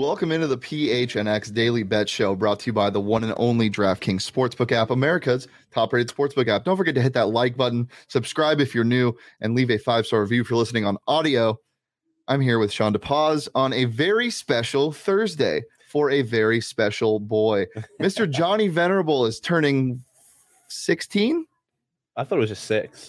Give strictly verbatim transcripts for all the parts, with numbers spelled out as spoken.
welcome into the P H N X Daily Bet Show, brought to you by the one and only DraftKings Sportsbook app, America's top-rated sportsbook app. Don't forget to hit that like button, subscribe if you're new, and leave a five-star review if you're listening on audio. I'm here with Sean DePaz on a very special Thursday for a very special boy. Mister Johnny Venerable is turning sixteen? I thought it was just six.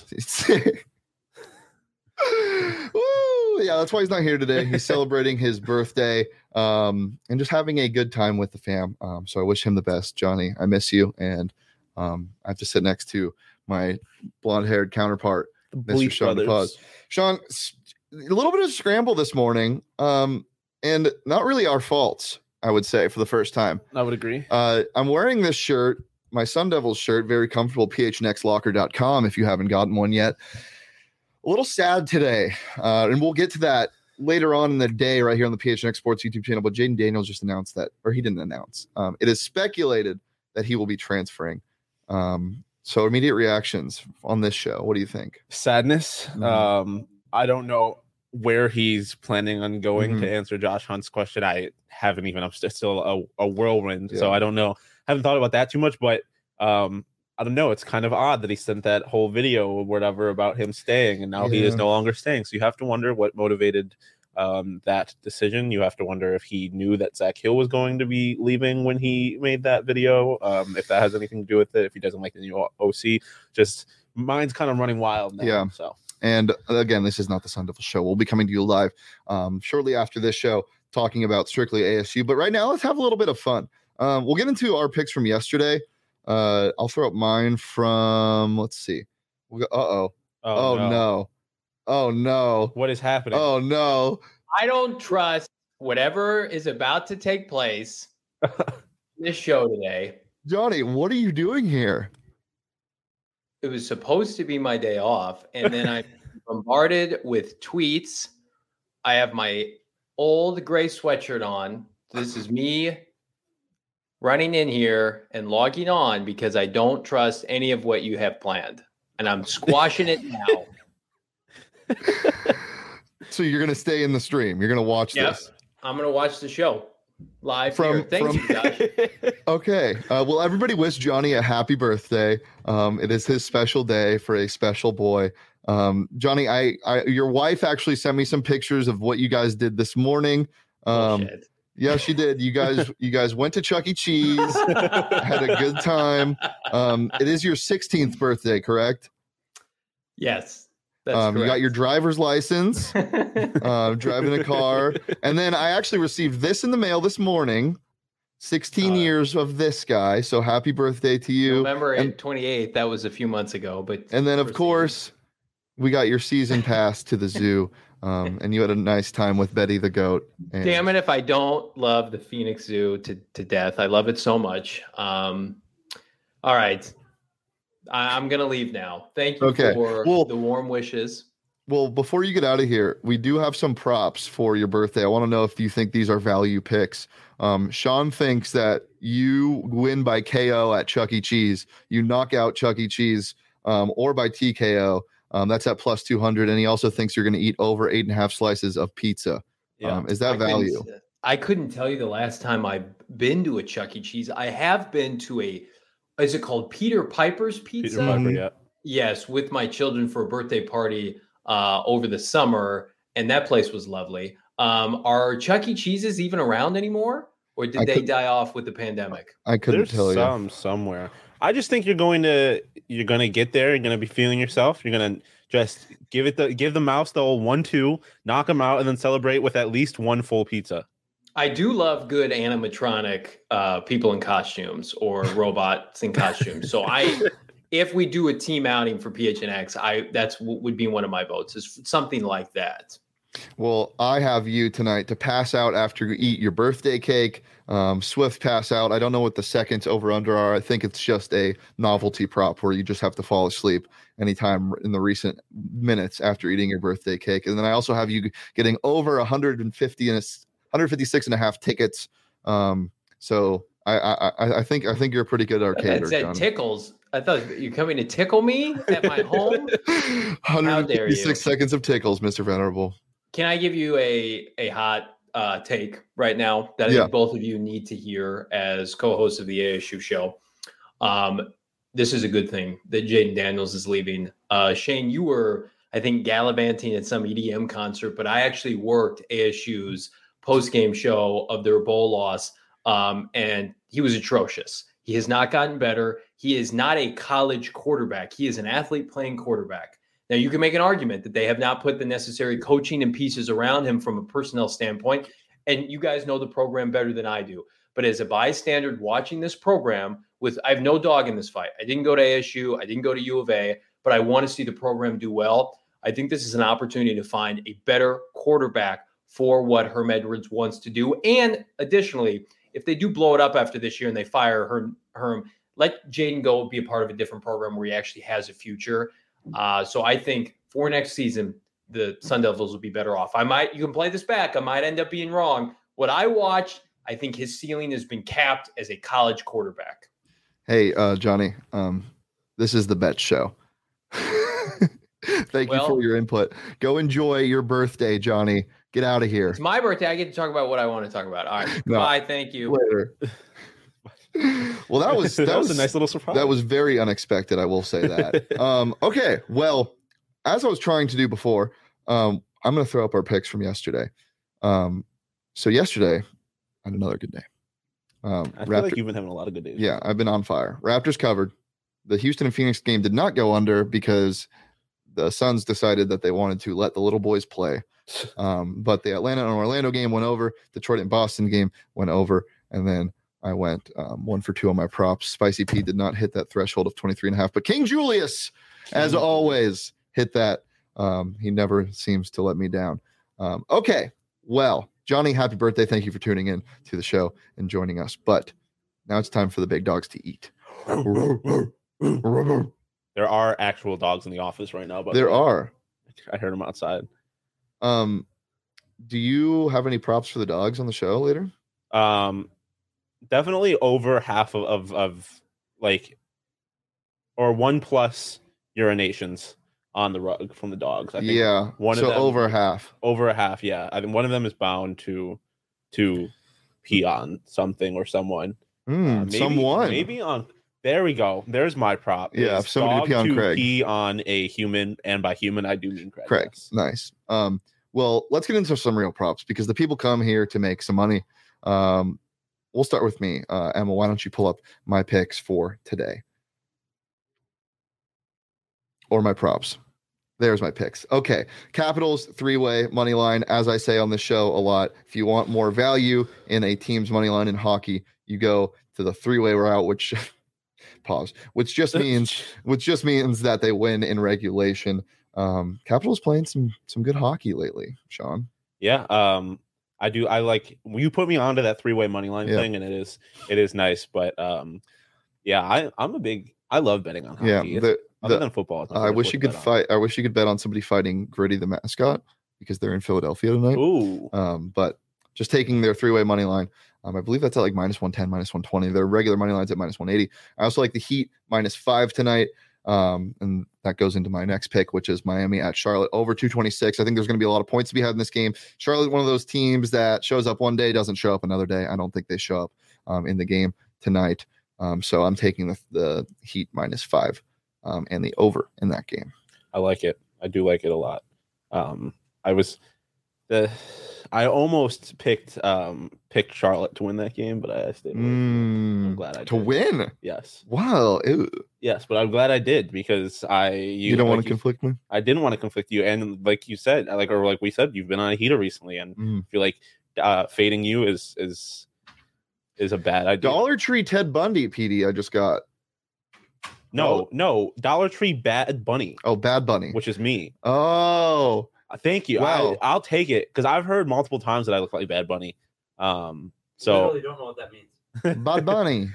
Woo, yeah, that's why he's not here today. He's celebrating his birthday um, and just having a good time with the fam. Um, so I wish him the best, Johnny. I miss you, and um, I have to sit next to my blonde-haired counterpart, The Mister Sean DePaz. Sean, a little bit of scramble this morning, um, and not really our faults, I would say, for the first time. I would agree. Uh, I'm wearing this shirt, my Sun Devils shirt, very comfortable, P H N X locker dot com if you haven't gotten one yet. A little sad today, uh, and we'll get to that later on in the day right here on the P H N X Sports YouTube channel, but Jaden Daniels just announced that, or he didn't announce. Um, it is speculated that he will be transferring. Um, so immediate reactions on this show. What do you think? Sadness. Mm-hmm. Um, I don't know where he's planning on going Mm-hmm. to answer Josh Hunt's question. I haven't even, I'm st- still a, a whirlwind, Yeah. so I don't know. Haven't thought about that too much, but um, I don't know. It's kind of odd that he sent that whole video or whatever about him staying, and now Yeah. he is no longer staying. So you have to wonder what motivated um, that decision. You have to wonder if he knew that Zach Hill was going to be leaving when he made that video. Um, if that has anything to do with it. If he doesn't like the new O C, just mine's kind of running wild now. Yeah. So. And again, this is not the Sun Devil Show. We'll be coming to you live um, shortly after this show, talking about strictly A S U. But right now, let's have a little bit of fun. Um, we'll get into our picks from yesterday. Uh, I'll throw up mine from, let's see. We'll go, uh-oh. Oh, Oh, no. no. Oh, no. What is happening? Oh, no. I don't trust whatever is about to take place in this show today. Johnny, what are you doing here? It was supposed to be my day off, and then I'm bombarded with tweets. I have my old gray sweatshirt on. This is me running in here and logging on because I don't trust any of what you have planned, and I'm squashing it now. So you're going to stay in the stream. You're going to watch Yep. this. I'm going to watch the show live From- here. Thank from- you, Josh. Okay. Uh, well, everybody wish Johnny a happy birthday. Um, it is his special day for a special boy. Um, Johnny, I, I, your wife actually sent me some pictures of what you guys did this morning. Um, Bullshit. yeah, she did. You guys, you guys went to Chuck E. Cheese, had a good time. Um, it is your sixteenth birthday, correct? Yes, that's Um, you got correct. your driver's license, uh, driving a car, and then I actually received this in the mail this morning. sixteen Uh, years of this guy. So happy birthday to you. November and- twenty-eighth. That was a few months ago, but And then, of proceed. course, we got your season pass to the zoo, um, and you had a nice time with Betty the goat. And Damn it if I don't love the Phoenix Zoo to, to death. I love it so much. Um, all right. I, I'm going to leave now. Thank you Okay. for Well- the warm wishes. Well, before you get out of here, we do have some props for your birthday. I want to know if you think these are value picks. Um, Sean thinks that you win by K O at Chuck E. Cheese. You knock out Chuck E. Cheese um, or by T K O. Um, that's at plus two hundred. And he also thinks you're going to eat over eight and a half slices of pizza. Yeah. Um, is that I couldn't- value? I couldn't tell you the last time I've been to a Chuck E. Cheese. I have been to a, is it called Peter Piper's Pizza? Peter Piper, Mhm. yeah. Yes, with my children for a birthday party uh, over the summer, and that place was lovely. Um, are Chuck E. Cheese's even around anymore, or did I they could- die off with the pandemic? I couldn't There's tell you. some somewhere. I just think you're going to you're going to get there. You're going to be feeling yourself. You're going to just give it the give the mouse the old one two, knock them out, and then celebrate with at least one full pizza. I do love good animatronic uh, people in costumes or robots in costumes. So I, if we do a team outing for P H N X, I that's w- would be one of my votes. Is something like that. Well, I have you tonight to pass out after you eat your birthday cake. Um, swift pass out. I don't know what the seconds over under are. I think it's just a novelty prop where you just have to fall asleep anytime in the recent minutes after eating your birthday cake. And then I also have you getting over one hundred fifty and one hundred fifty-six and a half tickets. Um, so I, I, I think I think you're a pretty good That arcader, said John. tickles. I thought you're coming to tickle me at my home. one hundred fifty-six you. seconds of tickles, Mister Venerable. Can I give you a a hot uh, take right now that I Yeah. think both of you need to hear as co-hosts of the A S U show. Um, this is a good thing that Jaden Daniels is leaving. Uh, Shane, you were, I think, gallivanting at some E D M concert, but I actually worked A S U's post-game show of their bowl loss, um, and he was atrocious. He has not gotten better. He is not a college quarterback. He is an athlete playing quarterback. Now, you can make an argument that they have not put the necessary coaching and pieces around him from a personnel standpoint, and you guys know the program better than I do. But as a bystander watching this program, with I have no dog in this fight. I didn't go to A S U. I didn't go to U of A, but I want to see the program do well. I think this is an opportunity to find a better quarterback for what Herm Edwards wants to do. And additionally, if they do blow it up after this year and they fire Herm, Herm let Jaden go be a part of a different program where he actually has a future. Uh, so I think for next season, the Sun Devils will be better off. I might, you can play this back. I might end up being wrong. What I watched, I think his ceiling has been capped as a college quarterback. Hey, uh, Johnny, um, this is the Bet Show. Thank Well, you for your input. Go enjoy your birthday, Johnny. Get out of here. It's my birthday. I get to talk about what I want to talk about. All right. No. Bye. Thank you. Later. Well, that was that, that was, was a nice little surprise. That was very unexpected. I will say that. um, okay. Well, as I was trying to do before, um, I'm going to throw up our picks from yesterday. Um, so yesterday, I had another good day. Um, I feel Raptor- like you've been having a lot of good days. Yeah, I've been on fire. Raptors covered. The Houston and Phoenix game did not go under because the Suns decided that they wanted to let the little boys play. Um, but the Atlanta and Orlando game went over. Detroit and Boston game went over. And then I went um, one for two on my props. Spicy P did not hit that threshold of twenty-three and a half. But King Julius, as always, hit that. Um, he never seems to let me down. Um, okay, well, Johnny, happy birthday. Thank you for tuning in to the show and joining us. But now it's time for the big dogs to eat. There are actual dogs in the office right now, but There are. I heard them outside. Um, do you have any props for the dogs on the show later? Um, definitely over half of, of, of like, or one plus urinations on the rug from the dogs. I think Yeah. one so of them, over half. over a half. Yeah. I think one of them is bound to, to pee on something or someone. Mm, Uh, maybe, someone. Maybe on, there we go. There's my prop. Yeah, It's if somebody dog pee on to Craig. pee on a human, and by human, I do mean Craig. Craig. yes. Nice. Um, well, let's get into some real props because the people come here to make some money. Um, we'll start with me. Uh, Emma, why don't you pull up my picks for today? Or my props. There's my picks. Okay. Capitals three-way money line. As I say on the show a lot, if you want more value in a team's money line in hockey, you go to the three-way route, which pause, which just means which just means that they win in regulation. Um, Capitals playing some some good hockey lately, Sean. Yeah, um, I do. I like you put me onto that three-way money line Yeah. thing, and it is it is nice. But um, yeah, I I'm a big. I love betting on hockey. Yeah, It's- the, other the, than football, it's my I favorite wish sport you to could bet on. fight. I wish you could bet on somebody fighting Gritty the mascot because they're in Philadelphia tonight. Ooh, Um, but just taking their three-way money line, um, I believe that's at like minus one ten, minus one twenty. Their regular money line's at minus one eighty. I also like the Heat minus five tonight. Um, and that goes into my next pick, which is Miami at Charlotte over two twenty-six. I think there's going to be a lot of points to be had in this game. Charlotte, one of those teams that shows up one day, doesn't show up another day. I don't think they show up um, in the game tonight. Um, so I'm taking the, the Heat minus five um, and the over in that game. I like it. I do like it a lot. Um, I was the I almost picked um picked Charlotte to win that game, but I stayed away from it. I'm Mm, glad I to did. win. Yes, Wow. Ew. yes, but I'm glad I did because I you, You, don't like want to conflict me? I didn't want to conflict you, and like you said, like or like we said, you've been on a heater recently, and Mm. I feel like uh, fading you is is is a bad idea. Dollar Tree Ted Bundy, P D, I just got. No, no, Dollar Tree Bad Bunny, Oh, Bad Bunny. which is me. Oh, Uh, Thank you. Wow. I, I'll take it because I've heard multiple times that I look like Bad Bunny. Um, so Literally don't know what that means. Bad Bunny.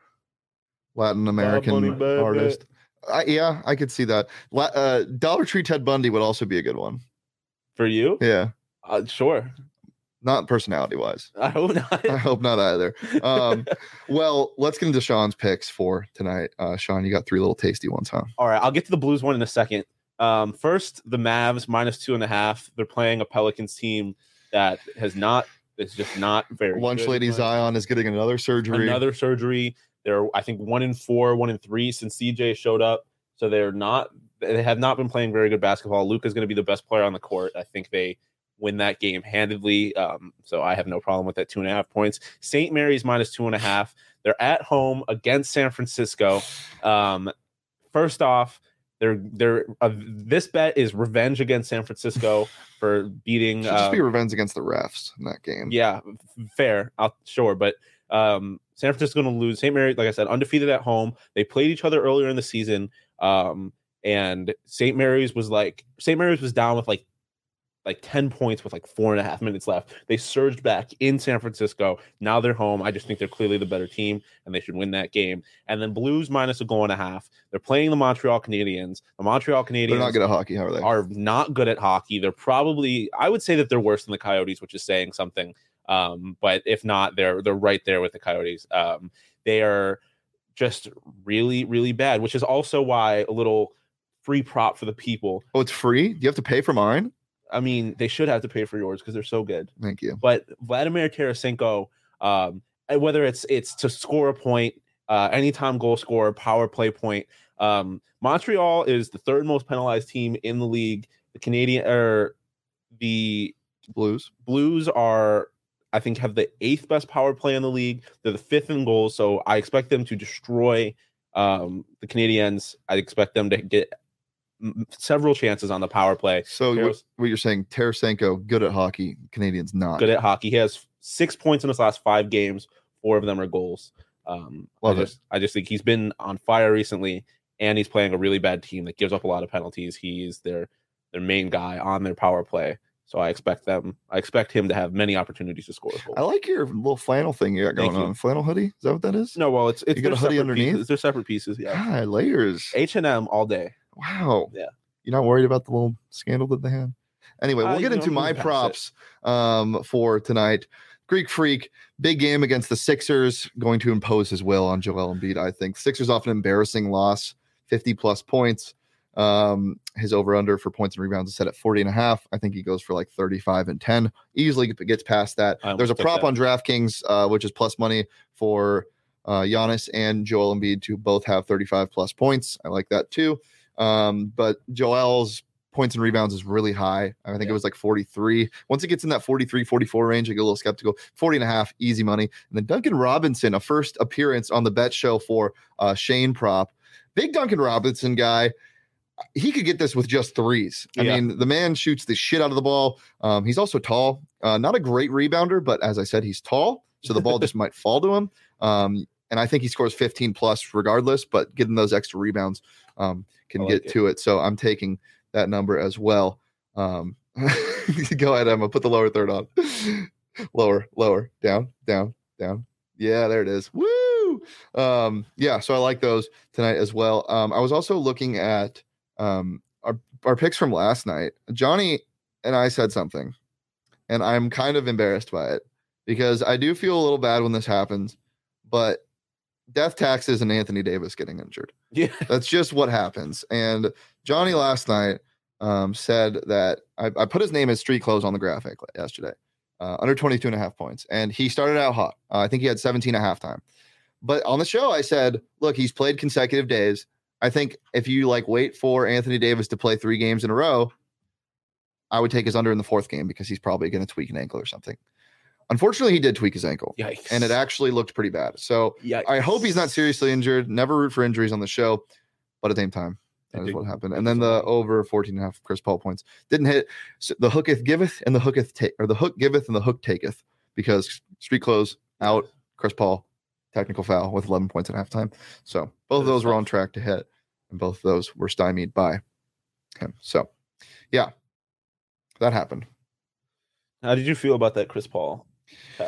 Latin American Bunny, bad artist. I, yeah, I could see that. La- uh, Dollar Tree Ted Bundy would also be a good one. for you, Yeah. uh, sure. Not personality wise. I hope not. I hope not either. Um, well, let's get into Sean's picks for tonight. Uh, Sean, you got three little tasty ones, huh? All right, I'll get to the Blues one in a second. Um, first, the Mavs minus two and a half. They're playing a Pelicans team that has not It's just not very Lunch good. Lady Zion is getting another surgery. Another surgery. They're, I think, one in four, one in three since C J showed up. So they're not, they have not been playing very good basketball. Luka's going to be the best player on the court. I think they win that game handedly. Um, so I have no problem with that two and a half points. Saint Mary's minus two and a half. They're at home against San Francisco. Um, first off, they're they're uh, this bet is revenge against San Francisco for beating. Should just uh, be revenge against the refs in that game. Yeah, fair. I'll, sure, but um, San Francisco going to lose. Saint Mary, like I said, undefeated at home. They played each other earlier in the season, um, and Saint Mary's was like Saint Mary's was down with like like ten points with like four and a half minutes left. They surged back in San Francisco. Now they're home. I just think they're clearly the better team, and they should win that game. And then Blues minus a goal and a half. They're playing the Montreal Canadiens. The Montreal Canadiens They're not good at hockey, how are they? are not good at hockey. They're probably, I would say that they're worse than the Coyotes, which is saying something. Um, but if not, they're they're right there with the Coyotes. Um, they are just really, really bad, which is also why a little free prop for the people. Oh, it's free? Do you have to pay for mine? I mean, they should have to pay for yours because they're so good. Thank you. But Vladimir Tarasenko, um, whether it's it's to score a point, uh, anytime goal scorer, power play point. Um, Montreal is the third most penalized team in the league. The Canadian or the Blues. Blues are, I think, have the eighth best power play in the league. They're the fifth in goals, so I expect them to destroy um, the Canadiens. I expect them to get several chances on the power play. So what, what you're saying, Tarasenko, good at hockey, Canadians not. Good at hockey. He has six points in his last five games. Four of them are goals. Um, Love I just, it. I just think he's been on fire recently, and he's playing a really bad team that gives up a lot of penalties. He's their their main guy on their power play. So I expect them. I expect him to have many opportunities to score a goal. I like your little flannel thing you got going Thank you. on. Flannel hoodie? Is that what that is? No, well, it's it's You got a they're hoodie separate underneath? Pieces. They're separate pieces. Yeah, God, layers. H and M all day. Wow. Yeah. You're not worried about the little scandal that they had? Anyway, we'll Uh, get you into know, my move past props um, for tonight. Greek Freak, big game against the Sixers, going to impose his will on Joel Embiid, I think. Sixers off an embarrassing loss, fifty plus points. Um, his over-under for points and rebounds is set at forty and a half. I think he goes for like thirty-five and ten. Easily gets past that. I There's a almost took prop that. on DraftKings, uh, which is plus money for uh, Giannis and Joel Embiid to both have thirty-five plus points. I like that too. Um, but Joel's points and rebounds is really high. I think Yeah. it was like forty-three. Once it gets in that forty-three, forty-four range, I get a little skeptical. forty and a half, easy money. And then Duncan Robinson, a first appearance on the bet show for uh, Shane prop. Big Duncan Robinson guy. He could get this with just threes. I Yeah. mean, the man shoots the shit out of the ball. Um, he's also tall. Uh, not a great rebounder, but as I said, he's tall. So the ball just might fall to him. Um, and I think he scores fifteen plus regardless, but getting those extra rebounds um, can I like get it. to it. So I'm taking that number as well. Um, go ahead, Emma. Put the lower third on. lower, lower, down, down, down. Yeah, there it is. Woo! Um, yeah, so I like those tonight as well. Um, I was also looking at um, our, our picks from last night. Johnny and I said something, and I'm kind of embarrassed by it because I do feel a little bad when this happens, but death taxes and Anthony Davis getting injured. Yeah. That's just what happens. And Johnny last night um, said that I, I put his name as street clothes on the graphic yesterday, uh, under twenty-two and a half points. And he started out hot. Uh, I think he had seventeen at halftime. But on the show, I said, look, he's played consecutive days. I think if you like wait for Anthony Davis to play three games in a row, I would take his under in the fourth game because he's probably going to tweak an ankle or something. Unfortunately, he did tweak his ankle. Yikes. And it actually looked pretty bad. So Yikes. I hope he's not seriously injured. Never root for injuries on the show, but at the same time, that is what happened. And then the over fourteen and a half Chris Paul points didn't hit. So the hooketh giveth and the hooketh take, or the hook giveth and the hook taketh, because street clothes out, Chris Paul technical foul with eleven points at halftime. So both of those were on track to hit, and both of those were stymied by him. So yeah, that happened. How did you feel about that Chris Paul tech?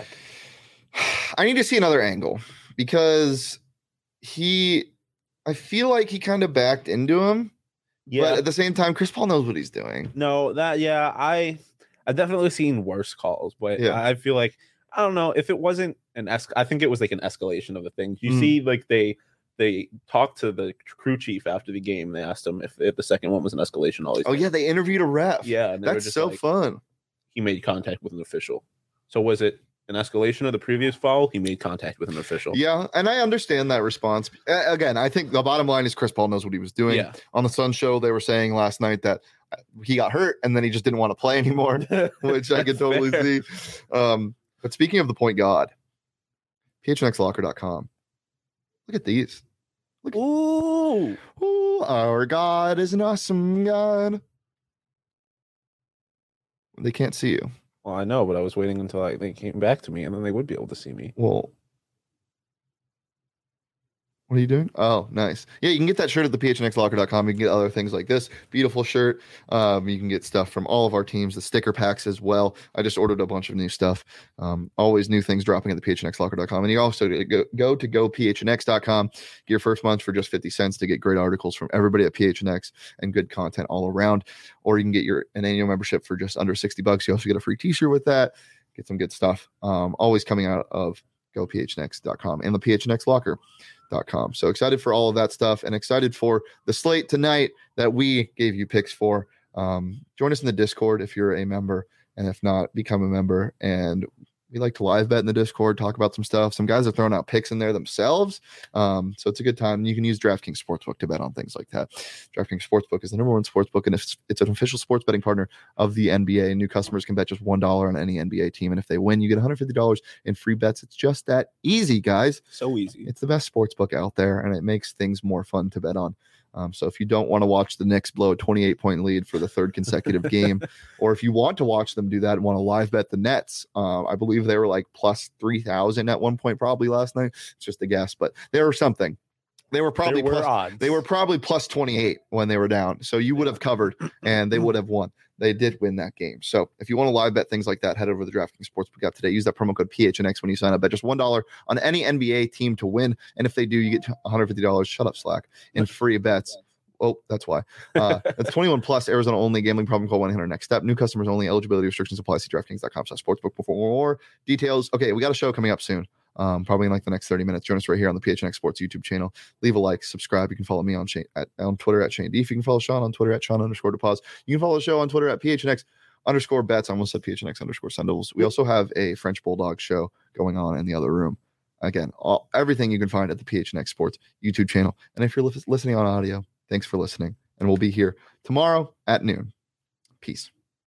I need to see another angle because he, I feel like he kind of backed into him. Yeah. But at the same time, Chris Paul knows what he's doing. No, that yeah, I I've definitely seen worse calls, but Yeah. I feel like I don't know if it wasn't an es- I think it was like an escalation of the thing. You Mm. see, like they they talked to the crew chief after the game. They asked him if, if the second one was an escalation. All these Oh yeah, they interviewed a ref. yeah, and they were That's just so like, fun. he made contact with an official. So was it an escalation of the previous foul? He made contact with an official. Yeah, and I understand that response. A- Again, I think the bottom line is Chris Paul knows what he was doing. Yeah. On the Sun show, they were saying last night that he got hurt and then he just didn't want to play anymore, which I could totally fair. see. Um, but speaking of the point god, P H N X locker dot com. Look at these. Look at, Ooh. Ooh, our God is an awesome God. They can't see you. Well, I know, but I was waiting until I, they came back to me, and then they would be able to see me. Well, what are you doing? Oh, nice. Yeah, you can get that shirt at the P H N X locker dot com. You can get other things like this beautiful shirt. Um, you can get stuff from all of our teams, the sticker packs as well. I just ordered a bunch of new stuff. Um, always new things dropping at the P H N X locker dot com. And you also go, go to go P H N X dot com. Get your first month for just fifty cents to get great articles from everybody at P H N X and good content all around. Or you can get your an annual membership for just under sixty bucks. You also get a free t-shirt with that. Get some good stuff. Um, always coming out of go P H N X dot com and the P H N X locker dot com. So excited for all of that stuff and excited for the slate tonight that we gave you picks for. Um, join us in the Discord if you're a member, and if not, become a member. And we like to live bet in the Discord, talk about some stuff. Some guys are throwing out picks in there themselves. Um, so it's a good time. You can use DraftKings Sportsbook to bet on things like that. DraftKings Sportsbook is the number one sportsbook, and it's, it's an official sports betting partner of the N B A. New customers can bet just one dollar on any N B A team. And if they win, you get one hundred fifty dollars in free bets. It's just that easy, guys. So easy. It's the best sportsbook out there, and it makes things more fun to bet on. Um, so if you don't want to watch the Knicks blow a twenty-eight point lead for the third consecutive game, or if you want to watch them do that and want to live bet the Nets, uh, I believe they were like plus three thousand at one point probably last night. It's just a guess, but they were something. They were probably There were plus, odds. they were probably plus twenty-eight when they were down. So you would have covered and they would have won. They did win that game. So if you want to live bet things like that, head over to the DraftKings Sportsbook app today. Use that promo code P H N X when you sign up. Bet just one dollar on any N B A team to win. And if they do, you get one hundred fifty dollars. Shut up, Slack. In free bets. Oh, that's why. Uh, it's twenty-one plus, Arizona only. Gambling problem, call one eight hundred next step. New customers only. Eligibility restrictions apply. See DraftKings dot com slash sportsbook for more details. Okay, we got a show coming up soon. Um, probably in like the next thirty minutes. Join us right here on the P H N X Sports YouTube channel. Leave a like, subscribe. You can follow me on Shane, at, on Twitter at Shane Deef. You can follow Sean on Twitter at Sean underscore DePause. You can follow the show on Twitter at P H N X underscore bets. I almost said P H N X underscore Sundles. We also have a French Bulldog show going on in the other room. Again, all, everything you can find at the P H N X Sports YouTube channel. And if you're li- listening on audio, thanks for listening. And we'll be here tomorrow at noon. Peace.